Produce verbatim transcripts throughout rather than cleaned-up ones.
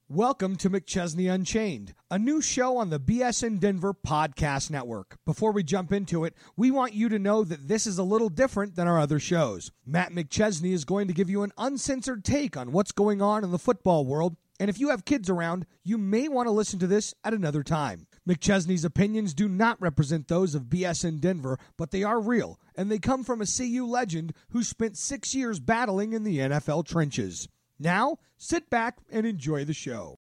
Welcome to McChesney Unchained, a new show on the B S in Denver podcast network. Before we jump into it, we want you to know that this is a little different than our other shows. Matt McChesney is going to give you an uncensored take on what's going on in the football world, and if you have kids around, you may want to listen to this at another time. McChesney's opinions do not represent those of B S in Denver, but they are real, and they come from a C U legend who spent six years battling in the N F L trenches. Now, sit back and enjoy the show.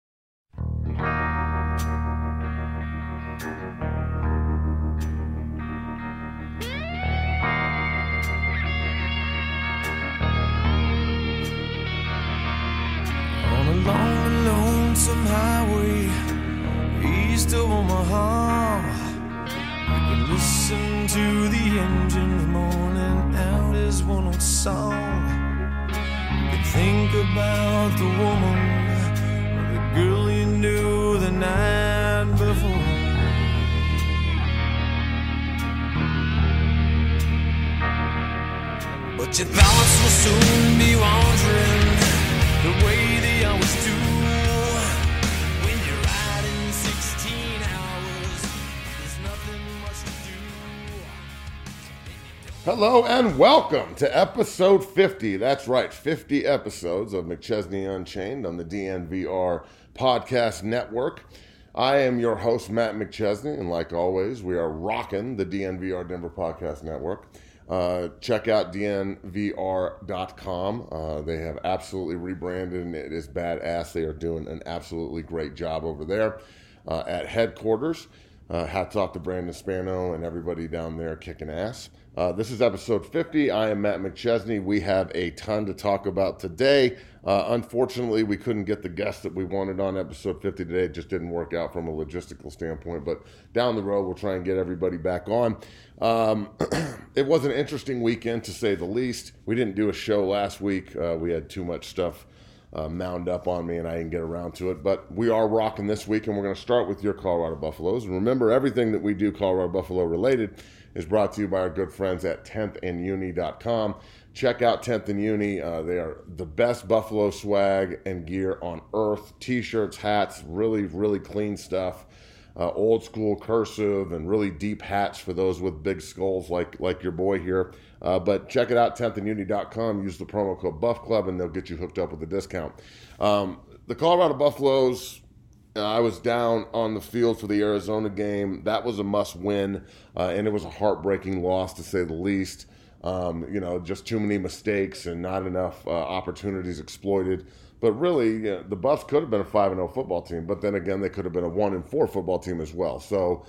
On a long and lonesome highway east of Omaha, you can listen to the engine moaning out his one old song. Think about the woman or the girl you knew the night before. But your thoughts will soon be wandering the way they always do. When you're riding sixteen hours, there's nothing much to do. Hello and welcome to episode fifty. That's right, fifty episodes of McChesney Unchained on the D N V R Podcast Network. I am your host, Matt McChesney, and like always, we are rocking the D N V R Denver Podcast Network. Uh, check out D N V R dot com. Uh, they have absolutely rebranded, and it is badass. They are doing an absolutely great job over there uh, at headquarters. Uh, hats off to Brandon Spano and everybody down there kicking ass. Uh, this is episode fifty. I am Matt McChesney. We have a ton to talk about today. Uh, unfortunately, we couldn't get the guest that we wanted on episode fifty today. It just didn't work out from a logistical standpoint. But down the road, we'll try and get everybody back on. Um, it was an interesting weekend, to say the least. We didn't do a show last week. Uh, we had too much stuff uh, mound up on me, and I didn't get around to it. But we are rocking this week, and we're going to start with your Colorado Buffaloes. And remember, everything that we do Colorado Buffalo related is brought to you by our good friends at tenth and uni dot com. Check out tenth and Uni. Uh, they are the best Buffalo swag and gear on earth. T-shirts, hats, really, really clean stuff. Uh, old school cursive and really deep hats for those with big skulls like like your boy here. Uh, but check it out, tenth and uni dot com. Use the promo code Buff Club and they'll get you hooked up with a discount. Um, the Colorado Buffaloes, Uh, I was down on the field for the Arizona game. That was a must-win, uh, and it was a heartbreaking loss, to say the least. Um, you know, just too many mistakes and not enough uh, opportunities exploited. But really, you know, the Buffs could have been a five and oh football team, but then again, they could have been a one and four football team as well. So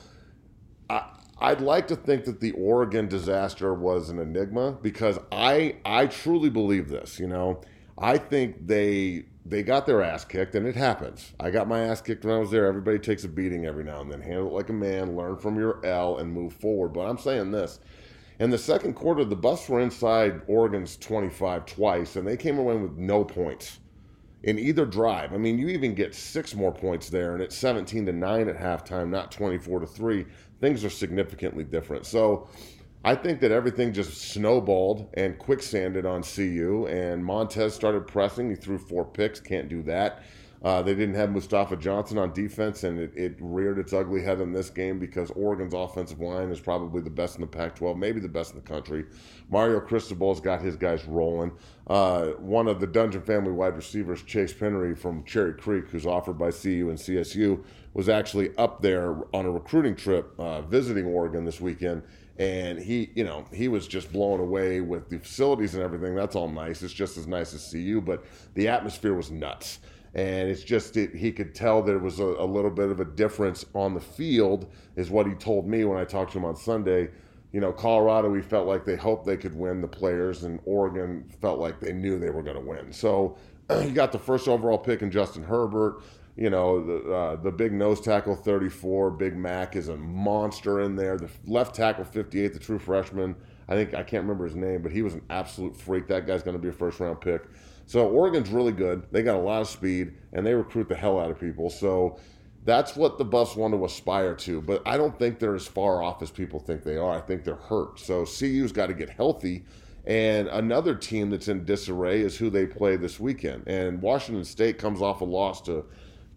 I, I'd like to think that the Oregon disaster was an enigma, because I I truly believe this, you know. I think they they got their ass kicked, and it happens. I got my ass kicked when I was there. Everybody takes a beating every now and then. Handle it like a man, learn from your L, and move forward. But I'm saying this. In the second quarter, the Buffs were inside Oregon's twenty-five twice, and they came away with no points in either drive. I mean, you even get six more points there, and it's seventeen to nine at halftime, not twenty-four to three. Things are significantly different. So I think that everything just snowballed and quicksanded on C U, and Montez started pressing. He threw four picks, can't do that. Uh, they didn't have Mustafa Johnson on defense, and it, it reared its ugly head in this game because Oregon's offensive line is probably the best in the Pac twelve, maybe the best in the country. Mario Cristobal's got his guys rolling. Uh, one of the Dungeon family wide receivers, Chase Pennery from Cherry Creek, who's offered by C U and C S U, was actually up there on a recruiting trip uh, visiting Oregon this weekend. And he, you know, he was just blown away with the facilities and everything. That's all nice. It's just as nice as C U, but the atmosphere was nuts. And it's just, it, he could tell there was a, a little bit of a difference on the field, is what he told me when I talked to him on Sunday. You know, Colorado, we felt like they hoped they could win, the players, and Oregon felt like they knew they were going to win. So you got the first overall pick in Justin Herbert. You know, the uh, the big nose tackle, thirty-four, Big Mac, is a monster in there. The left tackle, fifty-eight, the true freshman, I think, I can't remember his name, but he was an absolute freak. That guy's going to be a first-round pick. So Oregon's really good. They got a lot of speed, and they recruit the hell out of people. So that's what the Buffs want to aspire to. But I don't think they're as far off as people think they are. I think they're hurt. So C U's got to get healthy. And another team that's in disarray is who they play this weekend. And Washington State comes off a loss to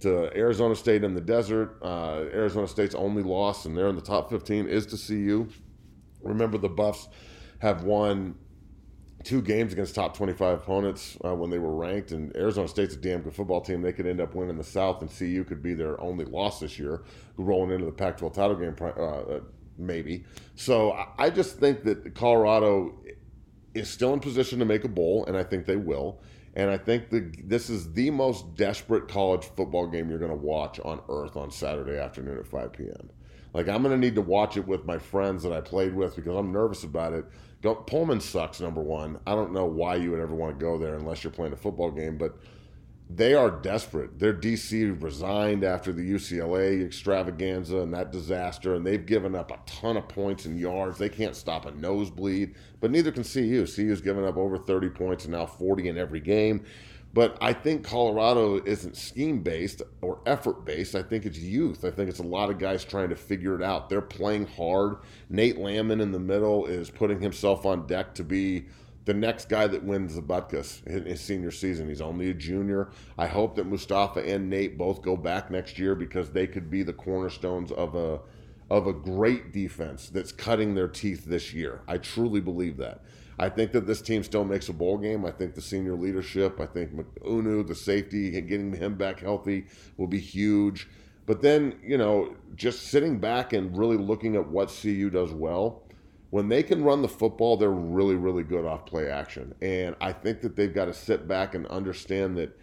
to Arizona State in the desert. Uh, Arizona State's only loss, and they're in the top fifteen, is to C U. Remember, the Buffs have won two games against top twenty-five opponents uh, when they were ranked, and Arizona State's a damn good football team. They could end up winning the South, and C U could be their only loss this year, rolling into the Pac twelve title game, uh, maybe. So I just think that Colorado is still in position to make a bowl, and I think they will. And I think that this is the most desperate college football game you're going to watch on earth on Saturday afternoon at five p.m. Like, I'm going to need to watch it with my friends that I played with because I'm nervous about it. Don't, Pullman sucks, number one. I don't know why you would ever want to go there unless you're playing a football game, but they are desperate. Their D C resigned after the U C L A extravaganza and that disaster, and they've given up a ton of points and yards. They can't stop a nosebleed, but neither can C U. C U's given up over thirty points and now forty in every game. But I think Colorado isn't scheme-based or effort-based. I think it's youth. I think it's a lot of guys trying to figure it out. They're playing hard. Nate Landman in the middle is putting himself on deck to be the next guy that wins the Butkus in his senior season. He's only a junior. I hope that Mustafa and Nate both go back next year because they could be the cornerstones of a of a great defense that's cutting their teeth this year. I truly believe that. I think that this team still makes a bowl game. I think the senior leadership, I think Unu, the safety, getting him back healthy will be huge. But then, you know, just sitting back and really looking at what C U does well, when they can run the football, they're really, really good off play action. And I think that they've got to sit back and understand that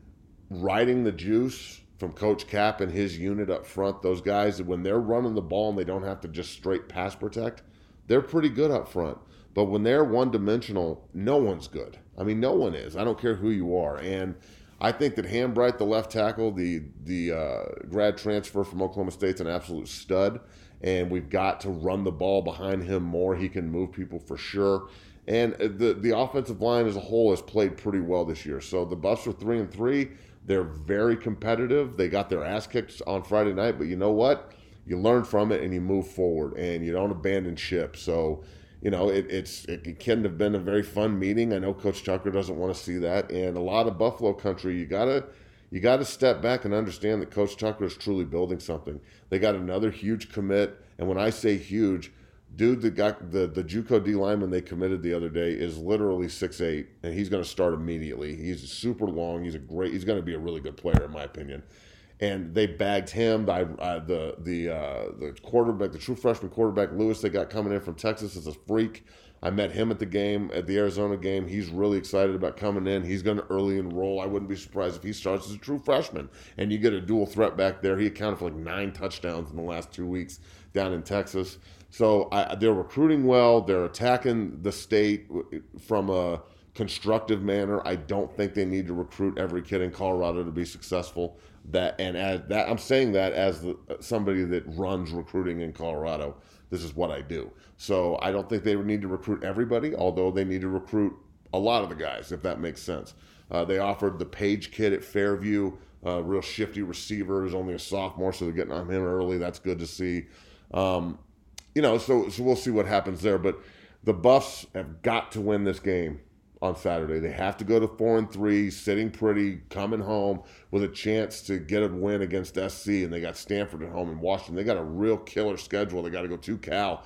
riding the juice from Coach Cap and his unit up front, those guys, when they're running the ball and they don't have to just straight pass protect, they're pretty good up front. But when they're one-dimensional, no one's good. I mean, no one is. I don't care who you are. And I think that Hambright, the left tackle, the the uh, grad transfer from Oklahoma State's an absolute stud. And we've got to run the ball behind him more. He can move people for sure. And the the offensive line as a whole has played pretty well this year. So the Buffs are three and three. They're very competitive. They got their ass kicked on Friday night, but you know what? You learn from it and you move forward and you don't abandon ship. So, you know, it, it's it couldn't have been a very fun meeting. I know Coach Tucker doesn't want to see that, and a lot of Buffalo country, you gotta you gotta step back and understand that Coach Tucker is truly building something. They got another huge commit, and when I say huge, dude, the guy, the the JUCO D lineman they committed the other day is literally six eight, and he's going to start immediately. He's super long. He's a great. He's going to be a really good player in my opinion. And they bagged him. I, uh, the the uh, the quarterback, the true freshman quarterback Lewis, they got coming in from Texas as a freak. I met him at the game, at the Arizona game. He's really excited about coming in. He's going to early enroll. I wouldn't be surprised if he starts as a true freshman. And you get a dual threat back there. He accounted for like nine touchdowns in the last two weeks down in Texas. So I, they're recruiting well. They're attacking the state from a constructive manner. I don't think they need to recruit every kid in Colorado to be successful. That and as that I'm saying that as the, somebody that runs recruiting in Colorado. This is what I do. So I don't think they would need to recruit everybody, although they need to recruit a lot of the guys, if that makes sense. Uh, they offered the Page kid at Fairview, uh, real shifty receiver, who's only a sophomore, so they're getting on him early. That's good to see. Um, you know, so so we'll see what happens there. But the Buffs have got to win this game on Saturday. They have to go to four and three, sitting pretty, coming home with a chance to get a win against S C. And they got Stanford at home and Washington. They got a real killer schedule. They got to go to Cal.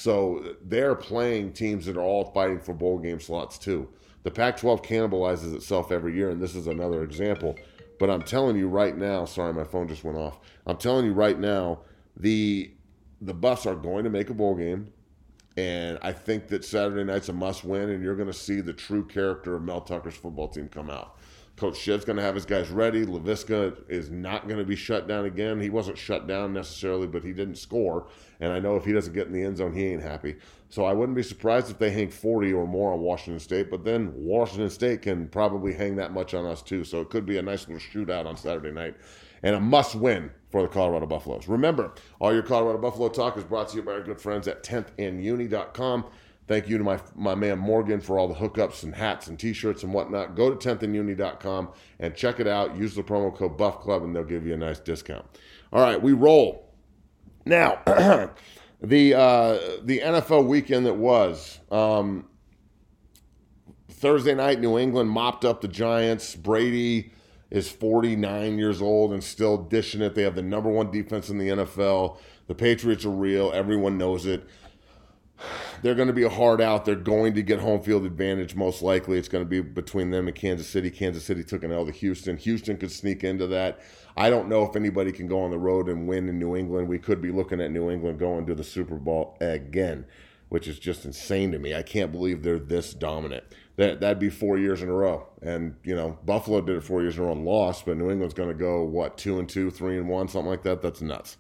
So they're playing teams that are all fighting for bowl game slots too. The Pac twelve cannibalizes itself every year, and this is another example. But I'm telling you right now, sorry, my phone just went off. I'm telling you right now, the the Buffs are going to make a bowl game. And I think that Saturday night's a must-win, and you're going to see the true character of Mel Tucker's football team come out. Coach Shiv's going to have his guys ready. Laviska is not going to be shut down again. He wasn't shut down necessarily, but he didn't score. And I know if he doesn't get in the end zone, he ain't happy. So I wouldn't be surprised if they hang forty or more on Washington State. But then Washington State can probably hang that much on us too. So it could be a nice little shootout on Saturday night. And a must-win for the Colorado Buffaloes. Remember, all your Colorado Buffalo talk is brought to you by our good friends at tenth and uni dot com. Thank you to my my man Morgan for all the hookups and hats and T-shirts and whatnot. Go to tenth and uni dot com and check it out. Use the promo code Buff Club and they'll give you a nice discount. All right, we roll. Now, the uh, the N F L weekend that was um, Thursday night, New England mopped up the Giants. Brady is forty-nine years old and still dishing it. They have the number one defense in the N F L. The Patriots are real. Everyone knows it. They're going to be a hard out. They're going to get home field advantage most likely. It's going to be between them and Kansas City. Kansas City took an L to Houston. Houston could sneak into that. I don't know if anybody can go on the road and win in New England. We could be looking at New England going to the Super Bowl again, which is just insane to me. I can't believe they're this dominant. That, that'd be four years in a row. And, you know, Buffalo did it four years in a row and lost, but New England's going to go, what, two and two, three and one, something like that? That's nuts.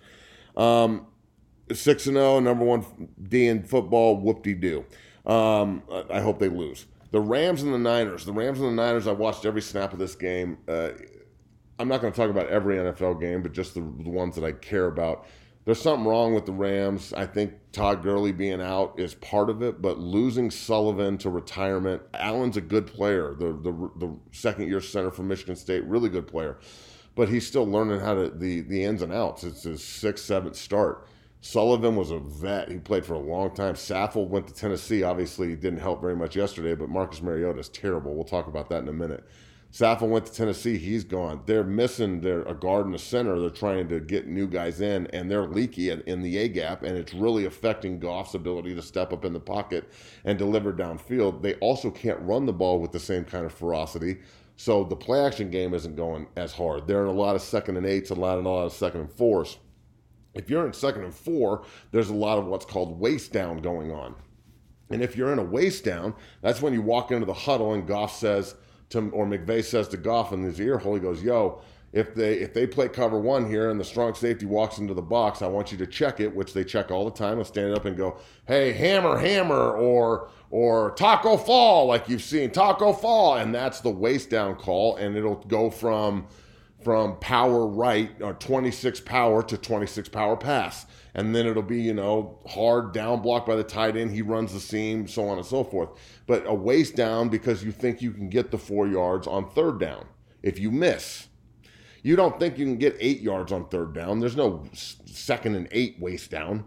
Um, six and oh, number one D in football, whoop-de-doo. Um, I hope they lose. The Rams and the Niners. The Rams and the Niners, I watched every snap of this game. Uh, I'm not going to talk about every N F L game, but just the, the ones that I care about. There's something wrong with the Rams. I think Todd Gurley being out is part of it, but losing Sullivan to retirement, Allen's a good player, the the, the second-year center from Michigan State, really good player, but he's still learning how to the, the ins and outs. It's his sixth, seventh start. Sullivan was a vet. He played for a long time. Saffold went to Tennessee. Obviously, he didn't help very much yesterday, but Marcus Mariota is terrible. We'll talk about that in a minute. Saffold went to Tennessee. He's gone. They're missing their a guard and a center. They're trying to get new guys in, and they're leaky in, in the A-gap, and it's really affecting Goff's ability to step up in the pocket and deliver downfield. They also can't run the ball with the same kind of ferocity, so the play-action game isn't going as hard. They're in a lot of second and eights, a lot, and a lot of second and fours. If you're in second and four, there's a lot of what's called waist down going on. And if you're in a waist down, that's when you walk into the huddle and Goff says – To, or McVay says to Goff in his ear hole, he goes, yo, if they if they play cover one here and the strong safety walks into the box, I want you to check it, which they check all the time, and stand up and go, hey, hammer, hammer, or or taco fall, like you've seen, taco fall. And that's the waist down call, and it'll go from from power right, or twenty-six power to twenty-six power pass. And then it'll be, you know, hard down block by the tight end. He runs the seam, so on and so forth. But a waist down because you think you can get the four yards on third down. If you miss, you don't think you can get eight yards on third down. There's no second and eight waist down.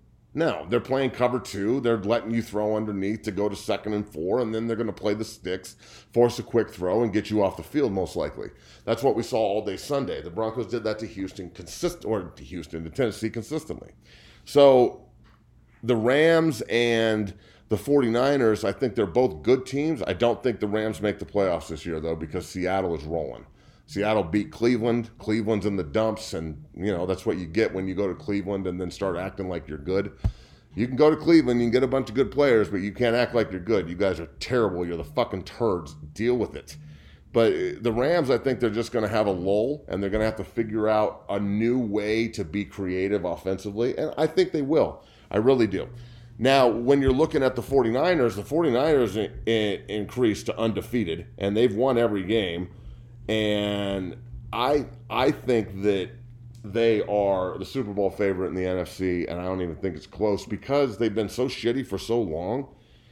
No, they're playing cover two. They're letting you throw underneath to go to second and four, and then they're going to play the sticks, force a quick throw, and get you off the field most likely. That's what we saw all day Sunday. The Broncos did that to Houston, consist or to Houston, to Tennessee consistently. So the Rams and the 49ers, I think they're both good teams. I don't think the Rams make the playoffs this year, though, because Seattle is rolling. Seattle beat Cleveland. Cleveland's in the dumps, and, you know, that's what you get when you go to Cleveland and then start acting like you're good. You can go to Cleveland, you can get a bunch of good players, but you can't act like you're good. You guys are terrible. You're the fucking turds. Deal with it. But the Rams, I think they're just going to have a lull, and they're going to have to figure out a new way to be creative offensively, and I think they will. I really do. Now, when you're looking at the 49ers, the 49ers in, in, increased to undefeated, and they've won every game. And I I think that they are the Super Bowl favorite in the N F C, and I don't even think it's close because they've been so shitty for so long.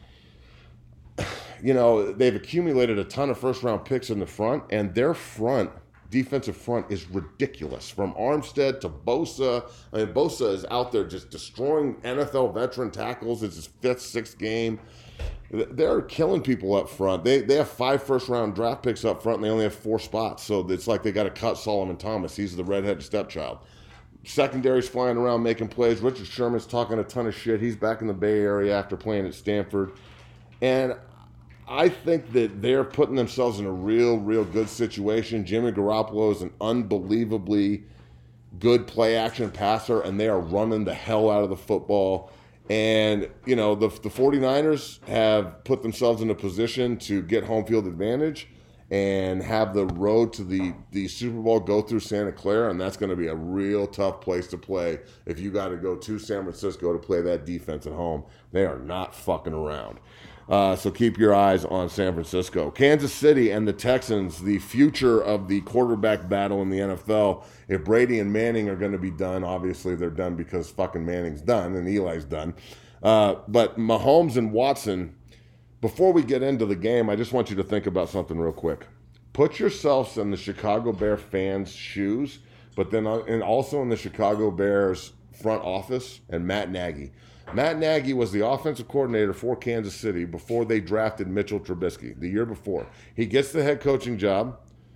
You know, they've accumulated a ton of first-round picks in the front, and their front, defensive front, is ridiculous. From Armstead to Bosa. I mean, Bosa is out there just destroying N F L veteran tackles. It's his fifth, sixth game. They're killing people up front. They they have five first-round draft picks up front, and they only have four spots. So it's like they got to cut Solomon Thomas. He's the redheaded stepchild. Secondary's flying around making plays. Richard Sherman's talking a ton of shit. He's back in the Bay Area after playing at Stanford. And I think that they're putting themselves in a real, real good situation. Jimmy Garoppolo is an unbelievably good play-action passer, and they are running the hell out of the football. And, you know, the the 49ers have put themselves in a position to get home field advantage and have the road to the, the Super Bowl go through Santa Clara, and that's going to be a real tough place to play if you got to go to San Francisco to play that defense at home. They are not fucking around. Uh, so keep your eyes on San Francisco. Kansas City and the Texans, the future of the quarterback battle in the N F L. If Brady and Manning are going to be done, obviously they're done because fucking Manning's done and Eli's done. Uh, but Mahomes and Watson, before we get into the game, I just want you to think about something real quick. Put yourselves in the Chicago Bears fans' shoes, but then uh, and also in the Chicago Bears front office and Matt Nagy. Matt Nagy was the offensive coordinator for Kansas City before they drafted Mitchell Trubisky the year before. He gets the head coaching job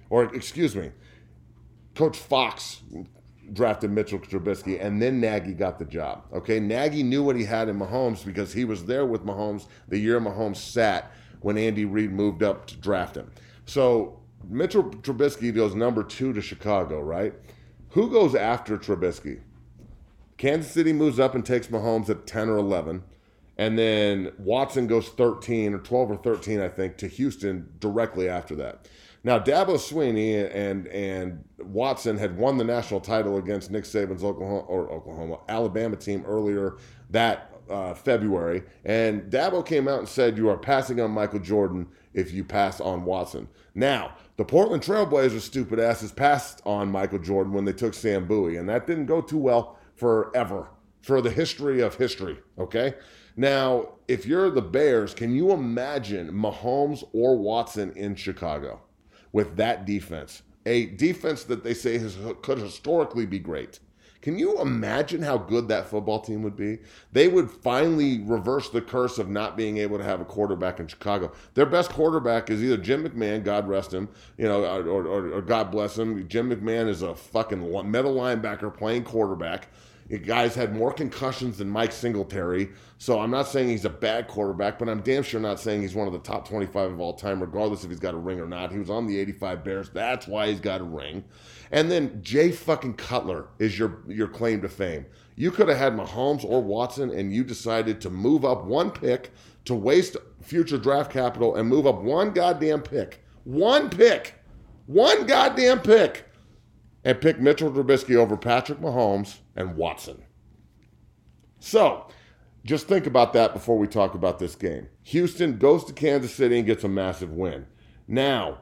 or excuse me, Coach Fox drafted Mitchell Trubisky, and then Nagy got the job. Okay, Nagy knew what he had in Mahomes because he was there with Mahomes the year Mahomes sat when Andy Reid moved up to draft him. So Mitchell Trubisky goes number two to Chicago, right? Who goes after Trubisky? Kansas City moves up and takes Mahomes at ten or eleven. And then Watson goes thirteen or twelve or thirteen, I think, to Houston directly after that. Now, Dabo Swinney and and Watson had won the national title against Nick Saban's Oklahoma or Oklahoma Alabama team earlier that uh, February, and Dabo came out and said, "You are passing on Michael Jordan if you pass on Watson." Now, the Portland Trailblazers, stupid asses, passed on Michael Jordan when they took Sam Bowie, and that didn't go too well forever for the history of history. Okay. Now, if you're the Bears, can you imagine Mahomes or Watson in Chicago with that defense? A defense that they say has, could historically be great. Can you imagine how good that football team would be? They would finally reverse the curse of not being able to have a quarterback in Chicago. Their best quarterback is either Jim McMahon, God rest him, you know, or, or, or God bless him. Jim McMahon is a fucking middle linebacker playing quarterback. The guy's had more concussions than Mike Singletary, so I'm not saying he's a bad quarterback, but I'm damn sure not saying he's one of the top twenty-five of all time, regardless if he's got a ring or not. He was on the eighty-five Bears. That's why he's got a ring. And then Jay fucking Cutler is your, your claim to fame. You could have had Mahomes or Watson, and you decided to move up one pick to waste future draft capital and move up one goddamn pick. One pick. One goddamn pick. And pick Mitchell Trubisky over Patrick Mahomes and Watson. So, just think about that before we talk about this game. Houston goes to Kansas City and gets a massive win. Now,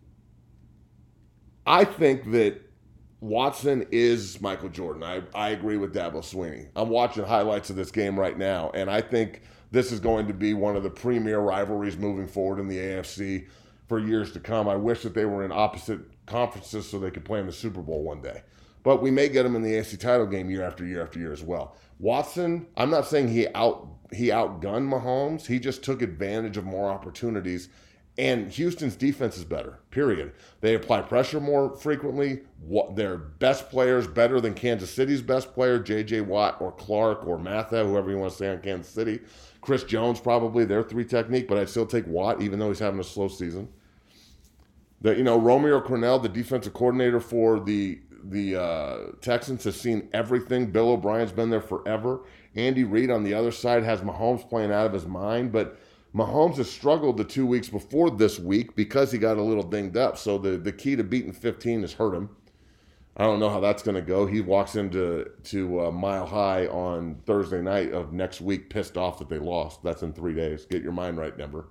I think that Watson is Michael Jordan. I, I agree with Dabo Swinney. I'm watching highlights of this game right now, and I think this is going to be one of the premier rivalries moving forward in the A F C for years to come. I wish that they were in opposite conferences so they could play in the Super Bowl one day. But we may get them in the A F C title game year after year after year as well. Watson, I'm not saying he out he outgunned Mahomes. He just took advantage of more opportunities. And Houston's defense is better, period. They apply pressure more frequently. Their best players better than Kansas City's best player, J J Watt or Clark or Matha, whoever you want to say on Kansas City. Chris Jones probably, their three technique, but I'd still take Watt even though he's having a slow season. The, you know, Romeo Crennel, the defensive coordinator for the the uh, Texans, has seen everything. Bill O'Brien's been there forever. Andy Reid on the other side has Mahomes playing out of his mind, but Mahomes has struggled the two weeks before this week because he got a little dinged up. So the, the key to beating fifteen has hurt him. I don't know how that's going to go. He walks into to uh, Mile High on Thursday night of next week pissed off that they lost. That's in three days. Get your mind right, Denver.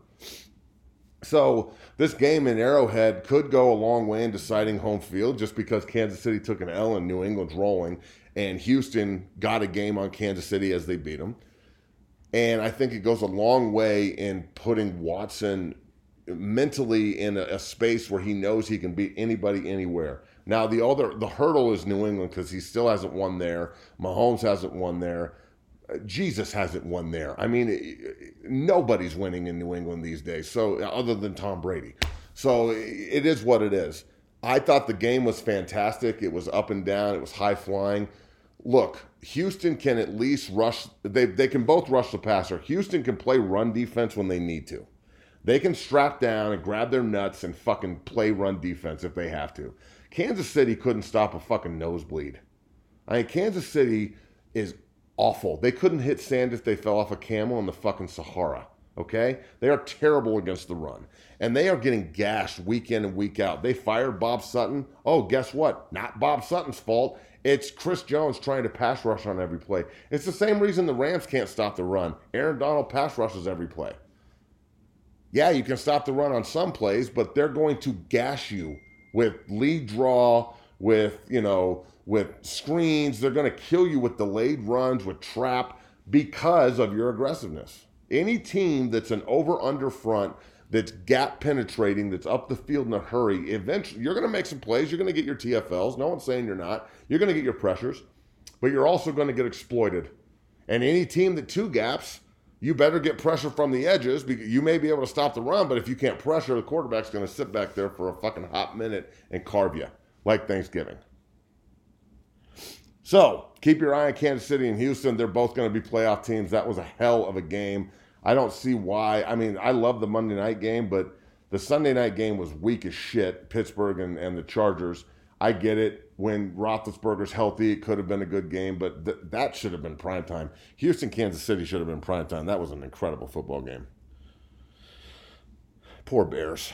So this game in Arrowhead could go a long way in deciding home field just because Kansas City took an L and New England's rolling, and Houston got a game on Kansas City as they beat them. And I think it goes a long way in putting Watson mentally in a, a space where he knows he can beat anybody anywhere. Now, the other the hurdle is New England because he still hasn't won there. Mahomes hasn't won there. Jesus hasn't won there. I mean, nobody's winning in New England these days, so other than Tom Brady. So it is what it is. I thought the game was fantastic. It was up and down. It was high flying. Look, Houston can at least rush. They they can both rush the passer. Houston can play run defense when they need to. They can strap down and grab their nuts and fucking play run defense if they have to. Kansas City couldn't stop a fucking nosebleed. I mean, Kansas City is awful. They couldn't hit sand if they fell off a camel in the fucking Sahara, okay? They are terrible against the run. And they are getting gashed week in and week out. They fired Bob Sutton. Oh, guess what? Not Bob Sutton's fault. It's Chris Jones trying to pass rush on every play. It's the same reason the Rams can't stop the run. Aaron Donald pass rushes every play. Yeah, you can stop the run on some plays, but they're going to gash you with lead draw, with, you know, with screens. They're going to kill you with delayed runs, with trap, because of your aggressiveness. Any team that's an over-under front, that's gap penetrating, that's up the field in a hurry, eventually you're going to make some plays. You're going to get your T F Ls. No one's saying you're not. You're going to get your pressures, but you're also going to get exploited. And any team that two gaps, you better get pressure from the edges because you may be able to stop the run, but if you can't pressure, the quarterback's going to sit back there for a fucking hot minute and carve you like Thanksgiving. So keep your eye on Kansas City and Houston. They're both going to be playoff teams. That was a hell of a game. I don't see why. I mean, I love the Monday night game, but the Sunday night game was weak as shit, Pittsburgh and, and the Chargers. I get it. When Roethlisberger's healthy, it could have been a good game, but th- that should have been primetime. Houston, Kansas City should have been primetime. That was an incredible football game. Poor Bears.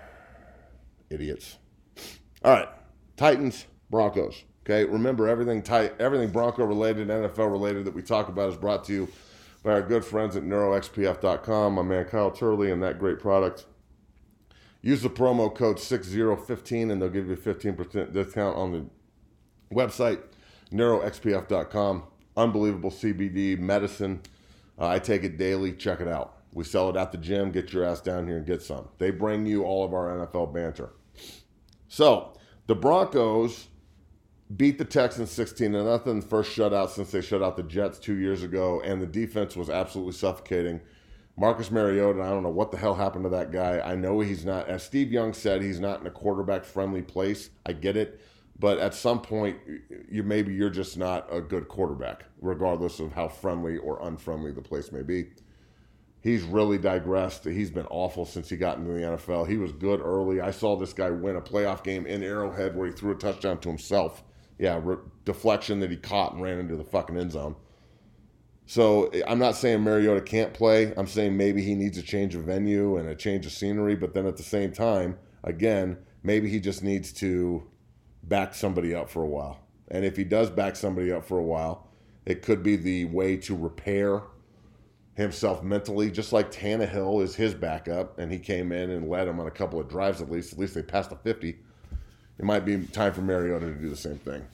Idiots. All right. Titans, Broncos. Okay, remember everything tight, everything Bronco related, N F L related that we talk about is brought to you by our good friends at neuro x p f dot com. My man Kyle Turley and that great product. Use the promo code six zero one five and they'll give you a fifteen percent discount on the website, neuro x p f dot com. Unbelievable C B D medicine. Uh, I take it daily. Check it out. We sell it at the gym. Get your ass down here and get some. They bring you all of our N F L banter. So, the Broncos beat the Texans sixteen to nothing. First shutout since they shut out the Jets two years ago, and the defense was absolutely suffocating. Marcus Mariota, I don't know what the hell happened to that guy. I know he's not, as Steve Young said, he's not in a quarterback-friendly place. I get it. But at some point, you maybe you're just not a good quarterback, regardless of how friendly or unfriendly the place may be. He's really digressed. He's been awful since he got into the N F L. He was good early. I saw this guy win a playoff game in Arrowhead where he threw a touchdown to himself. Yeah, re- deflection that he caught and ran into the fucking end zone. So I'm not saying Mariota can't play. I'm saying maybe he needs a change of venue and a change of scenery. But then at the same time, again, maybe he just needs to back somebody up for a while. And if he does back somebody up for a while, it could be the way to repair himself mentally, just like Tannehill is his backup, and he came in and led him on a couple of drives at least. At least they passed the fifty. It might be time for Mariota to do the same thing.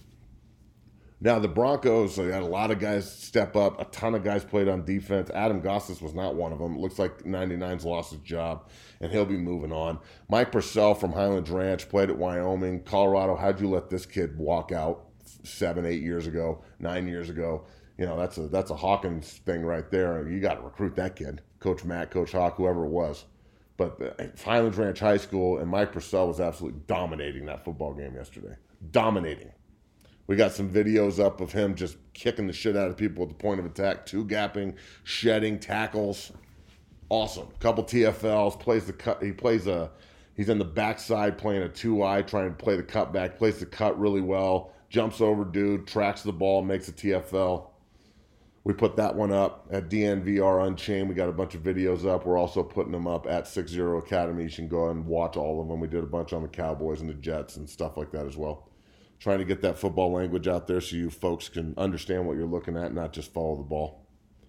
Now, the Broncos, they had a lot of guys step up. A ton of guys played on defense. Adam Gossis was not one of them. It looks like ninety-nine's lost his job, and he'll be moving on. Mike Purcell from Highlands Ranch played at Wyoming. Colorado, how'd you let this kid walk out seven, eight years ago, nine years ago? You know, that's a that's a Hawkins thing right there. You got to recruit that kid. Coach Matt, Coach Hawk, whoever it was. But Highlands Ranch High School, and Mike Purcell was absolutely dominating that football game yesterday. Dominating. We got some videos up of him just kicking the shit out of people at the point of attack, two-gapping, shedding, tackles. Awesome. Couple T F Ls, plays the cut. He plays a, he's in the backside playing a two-eye, trying to play the cutback, plays the cut really well, jumps over dude, tracks the ball, makes a T F L. We put that one up at D N V R Unchained. We got a bunch of videos up. We're also putting them up at six zero Academy. You can go ahead and watch all of them. We did a bunch on the Cowboys and the Jets and stuff like that as well. Trying to get that football language out there so you folks can understand what you're looking at, not just follow the ball.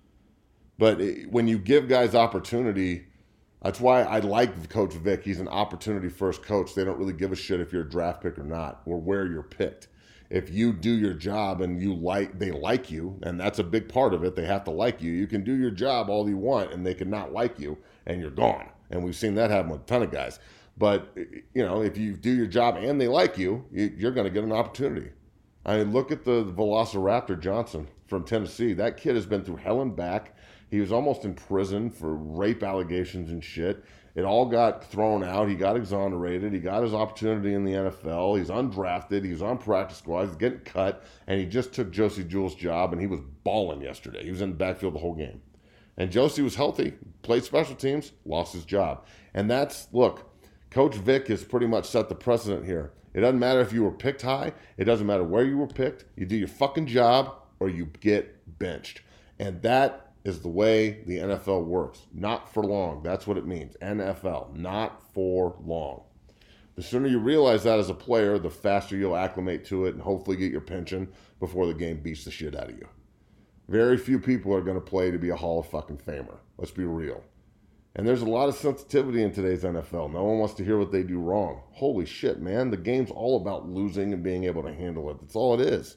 But it, when you give guys opportunity, that's why I like Coach Vic. He's an opportunity-first coach. They don't really give a shit if you're a draft pick or not, or where you're picked. If you do your job and you like, they like you, and that's a big part of it. They have to like you. You can do your job all you want, and they can not like you, and you're gone. And we've seen that happen with a ton of guys. But, you know, if you do your job and they like you, you're going to get an opportunity. I mean, look at the Velociraptor Johnson from Tennessee. That kid has been through hell and back. He was almost in prison for rape allegations and shit. It all got thrown out. He got exonerated. He got his opportunity in the N F L. He's undrafted. He was on practice squad. He's getting cut. And he just took Josie Jewell's job, and he was balling yesterday. He was in the backfield the whole game. And Josie was healthy, played special teams, lost his job. And that's, look, Coach Vic has pretty much set the precedent here. It doesn't matter if you were picked high. It doesn't matter where you were picked. You do your fucking job or you get benched. And that is the way the N F L works. Not for long. That's what it means. N F L. Not for long. The sooner you realize that as a player, the faster you'll acclimate to it and hopefully get your pension before the game beats the shit out of you. Very few people are going to play to be a Hall of fucking Famer. Let's be real. And there's a lot of sensitivity in today's N F L. No one wants to hear what they do wrong. Holy shit, man. The game's all about losing and being able to handle it. That's all it is.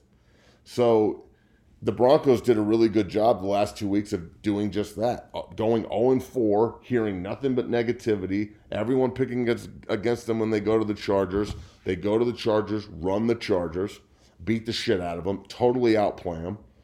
So the Broncos did a really good job the last two weeks of doing just that. Going oh and four, hearing nothing but negativity. Everyone picking against, against them when they go to the Chargers. They go to the Chargers, run the Chargers, beat the shit out of them, totally outplay them.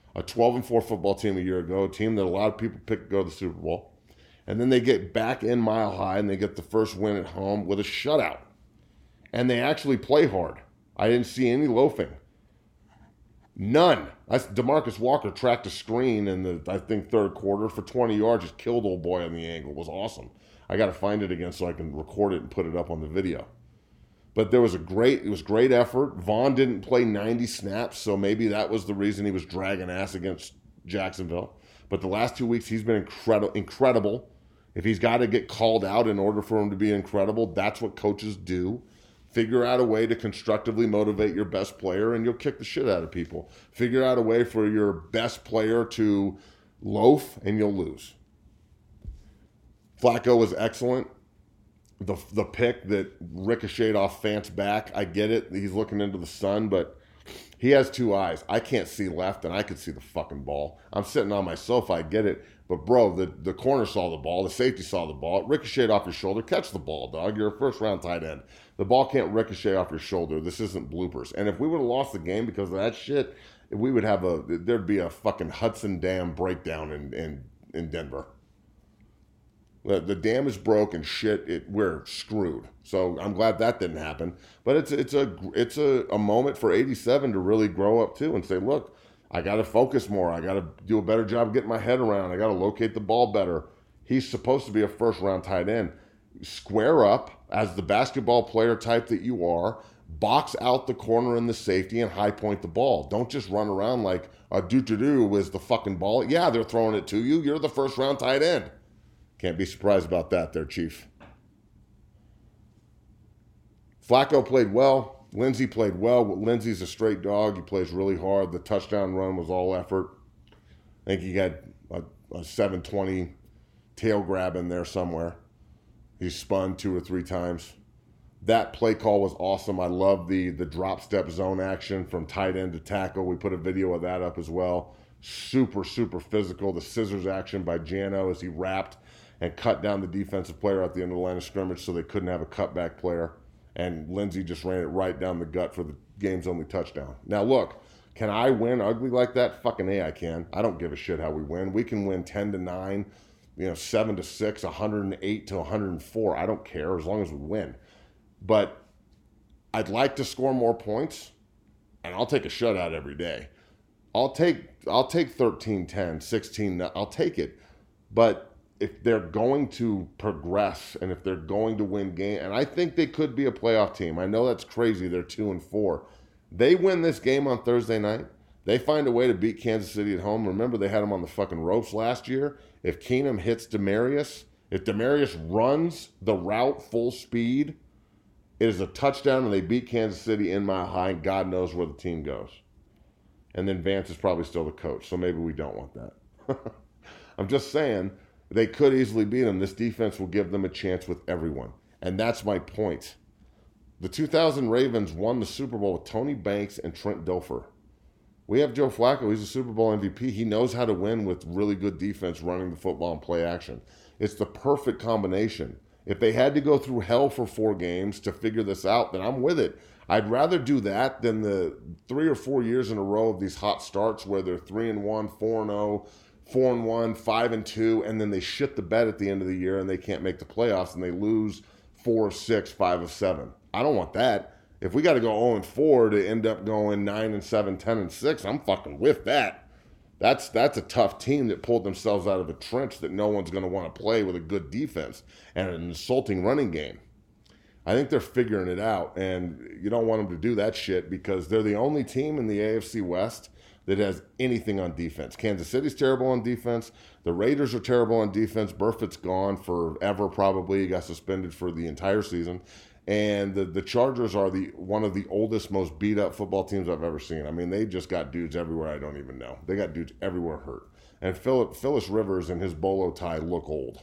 a twelve and four football team a year ago, a team that a lot of people picked to go to the Super Bowl. And then they get back in Mile High and they get the first win at home with a shutout. And they actually play hard. I didn't see any loafing. None. I, DeMarcus Walker tracked a screen in the, I think, third quarter for twenty yards, just killed old boy on the angle. It was awesome. I got to find it again so I can record it and put it up on the video. But there was a great, it was great effort. Vaughn didn't play ninety snaps, so maybe that was the reason he was dragging ass against Jacksonville. But the last two weeks, he's been incredible. incredible. If he's got to get called out in order for him to be incredible, that's what coaches do. Figure out a way to constructively motivate your best player, and you'll kick the shit out of people. Figure out a way for your best player to loaf, and you'll lose. Flacco was excellent. The the pick that ricocheted off Fant's back, I get it. He's looking into the sun, but he has two eyes. I can't see left, and I could see the fucking ball. I'm sitting on my sofa, I get it. But, bro, the, the corner saw the ball. The safety saw the ball. It ricocheted off your shoulder. Catch the ball, dog. You're a first-round tight end. The ball can't ricochet off your shoulder. This isn't bloopers. And if we would have lost the game because of that shit, we would have a – there'd be a fucking Hudson Dam breakdown in, in, in Denver. The, the dam is broke and shit. It, we're screwed. So I'm glad that didn't happen. But it's, it's, a, it's a, a moment for eighty-seven to really grow up, too, and say, look, I got to focus more. I got to do a better job getting my head around. I got to locate the ball better. He's supposed to be a first-round tight end. Square up as the basketball player type that you are. Box out the corner and the safety and high point the ball. Don't just run around like a doo-doo-doo is the fucking ball. Yeah, they're throwing it to you. You're the first-round tight end. Can't be surprised about that there, Chief. Flacco played well. Lindsey played well. Lindsey's a straight dog. He plays really hard. The touchdown run was all effort. I think he got a, a seven twenty tail grab in there somewhere. He spun two or three times. That play call was awesome. I love the, the drop step zone action from tight end to tackle. We put a video of that up as well. Super, super physical. The scissors action by Jano as he wrapped and cut down the defensive player at the end of the line of scrimmage so they couldn't have a cutback player. And Lindsey just ran it right down the gut for the game's only touchdown. Now, look, can I win ugly like that? Fucking A, I can. I don't give a shit how we win. We can win ten to nine, you know, seven to six, one hundred eight to one hundred four. I don't care as long as we win. But I'd like to score more points, and I'll take a shutout every day. I'll take I'll take thirteen ten, sixteen. I'll take it. But if they're going to progress and if they're going to win game, and I think they could be a playoff team. I know that's crazy. They're two and four. They win this game on Thursday night. They find a way to beat Kansas City at home. Remember, they had them on the fucking ropes last year. If Keenum hits Demarius, if Demarius runs the route full speed, it is a touchdown and they beat Kansas City in Mile High, and God knows where the team goes. And then Vance is probably still the coach, so maybe we don't want that. I'm just saying, they could easily beat them. This defense will give them a chance with everyone. And that's my point. The two thousand Ravens won the Super Bowl with Tony Banks and Trent Dilfer. We have Joe Flacco. He's a Super Bowl M V P. He knows how to win with really good defense, running the football and play action. It's the perfect combination. If they had to go through hell for four games to figure this out, then I'm with it. I'd rather do that than the three or four years in a row of these hot starts where they're three and one, four and oh, four and one, five and two, and then they shit the bed at the end of the year and they can't make the playoffs and they lose four of six, five of seven. I don't want that. If we got to go oh and four to end up going nine and seven, ten and six, I'm fucking with that. That's that's a tough team that pulled themselves out of a trench that no one's going to want to play with a good defense and an insulting running game. I think they're figuring it out, and you don't want them to do that shit because they're the only team in the A F C West that has anything on defense. Kansas City's terrible on defense. The Raiders are terrible on defense. Burfitt's gone forever probably. He got suspended for the entire season. And the, the Chargers are the one of the oldest, most beat-up football teams I've ever seen. I mean, they just got dudes everywhere I don't even know. They got dudes everywhere hurt. And Phillip, Phyllis Rivers and his bolo tie look old.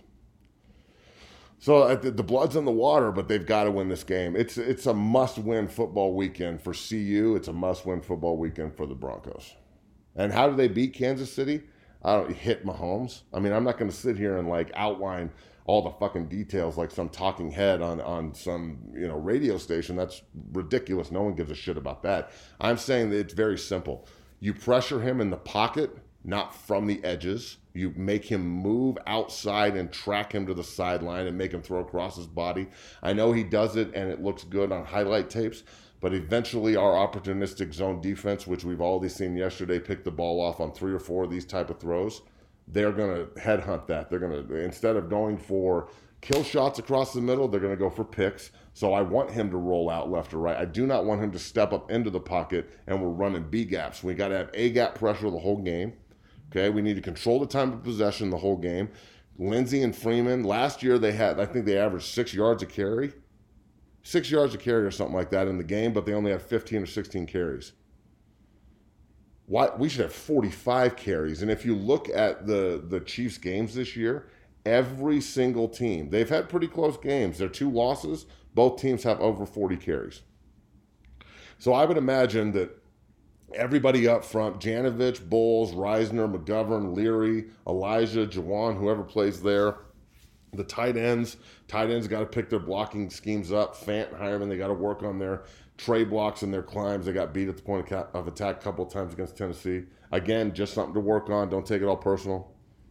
So uh, the, the blood's in the water, but they've got to win this game. It's it's a must-win football weekend for C U. It's a must-win football weekend for the Broncos. And how do they beat Kansas City? I don't hit Mahomes. I mean, I'm not going to sit here and like outline all the fucking details like some talking head on, on some, you know, radio station. That's ridiculous. No one gives a shit about that. I'm saying that it's very simple. You pressure him in the pocket, not from the edges. You make him move outside and track him to the sideline and make him throw across his body. I know he does it and it looks good on highlight tapes, but eventually our opportunistic zone defense, which we've already seen yesterday, pick the ball off on three or four of these type of throws. They're going to headhunt that. They're going to, instead of going for kill shots across the middle, they're going to go for picks. So I want him to roll out left or right. I do not want him to step up into the pocket and we're running B gaps. We got to have A gap pressure the whole game. Okay, we need to control the time of possession the whole game. Lindsey and Freeman, last year they had, I think they averaged six yards a carry. Six yards a carry or something like that in the game, but they only had fifteen or sixteen carries. Why? We should have forty-five carries. And if you look at the, the Chiefs games this year, every single team, they've had pretty close games. Their two losses, both teams have over forty carries. So I would imagine that everybody up front, Janovich, Bowles, Reisner, McGovern, Leary, Elijah, Jawan, whoever plays there, the tight ends, tight ends got to pick their blocking schemes up. Fant and Hireman, they got to work on their tray blocks and their climbs. They got beat at the point of attack a couple of times against Tennessee. Again, just something to work on. Don't take it all personal.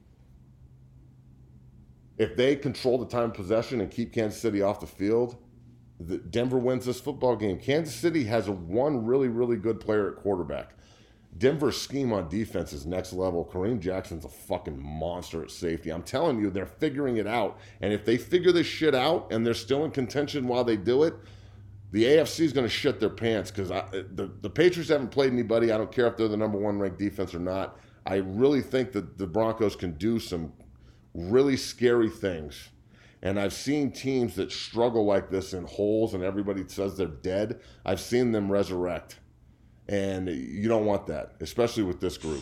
If they control the time of possession and keep Kansas City off the field, the Denver wins this football game. Kansas City has a one really, really good player at quarterback. Denver's scheme on defense is next level. Kareem Jackson's a fucking monster at safety. I'm telling you, they're figuring it out. And if they figure this shit out and they're still in contention while they do it, the A F C is going to shit their pants because the, the Patriots haven't played anybody. I don't care if they're the number one ranked defense or not. I really think that the Broncos can do some really scary things. And I've seen teams that struggle like this in holes and everybody says they're dead. I've seen them resurrect. And you don't want that, especially with this group.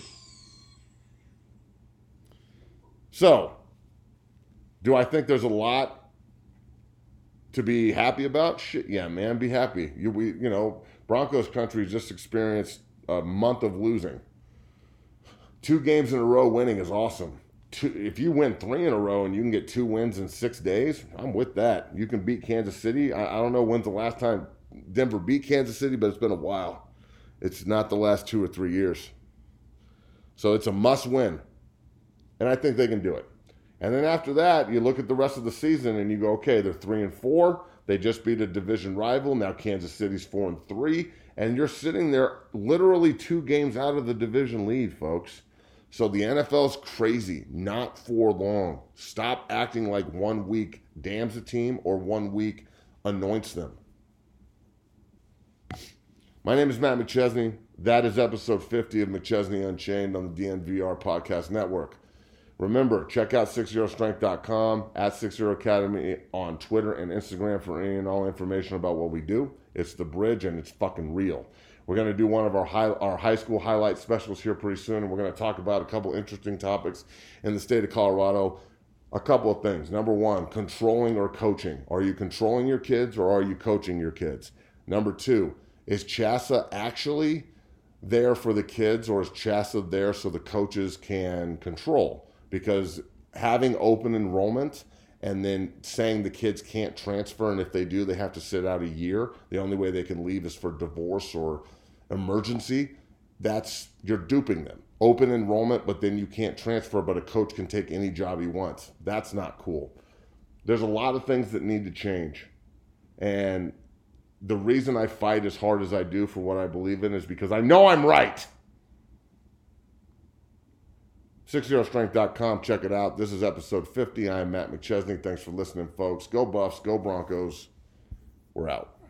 So, do I think there's a lot to be happy about? Shit, yeah, man, be happy. You, we, you know, Broncos country just experienced a month of losing. Two games in a row winning is awesome. Two, if you win three in a row and you can get two wins in six days, I'm with that. You can beat Kansas City. I, I don't know when's the last time Denver beat Kansas City, but it's been a while. It's not the last two or three years. So it's a must win. And I think they can do it. And then after that, you look at the rest of the season and you go, okay, they're three and four. They just beat a division rival. Now Kansas City's four and three. And you're sitting there literally two games out of the division lead, folks. So the N F L's crazy. Not for long. Stop acting like one week damns a team or one week anoints them. My name is Matt McChesney. That is episode fifty of McChesney Unchained on the D N V R Podcast Network. Remember, check out six zero strength dot com, at six zero academy on Twitter and Instagram for any and all information about what we do. It's the bridge and it's fucking real. We're going to do one of our high, our high school highlight specials here pretty soon, and we're going to talk about a couple interesting topics in the state of Colorado. A couple of things. Number one, controlling or coaching. Are you controlling your kids or are you coaching your kids? Number two, is CHSAA actually there for the kids or is CHSAA there so the coaches can control? Because having open enrollment and then saying the kids can't transfer, and if they do, they have to sit out a year. The only way they can leave is for divorce or emergency. That's, you're duping them. Open enrollment, but then you can't transfer, but a coach can take any job he wants. That's not cool. There's a lot of things that need to change. And the reason I fight as hard as I do for what I believe in is because I know I'm right. six zero strength dot com, check it out. This is episode fifty. I am Matt McChesney. Thanks for listening, folks. Go Buffs, go Broncos. We're out.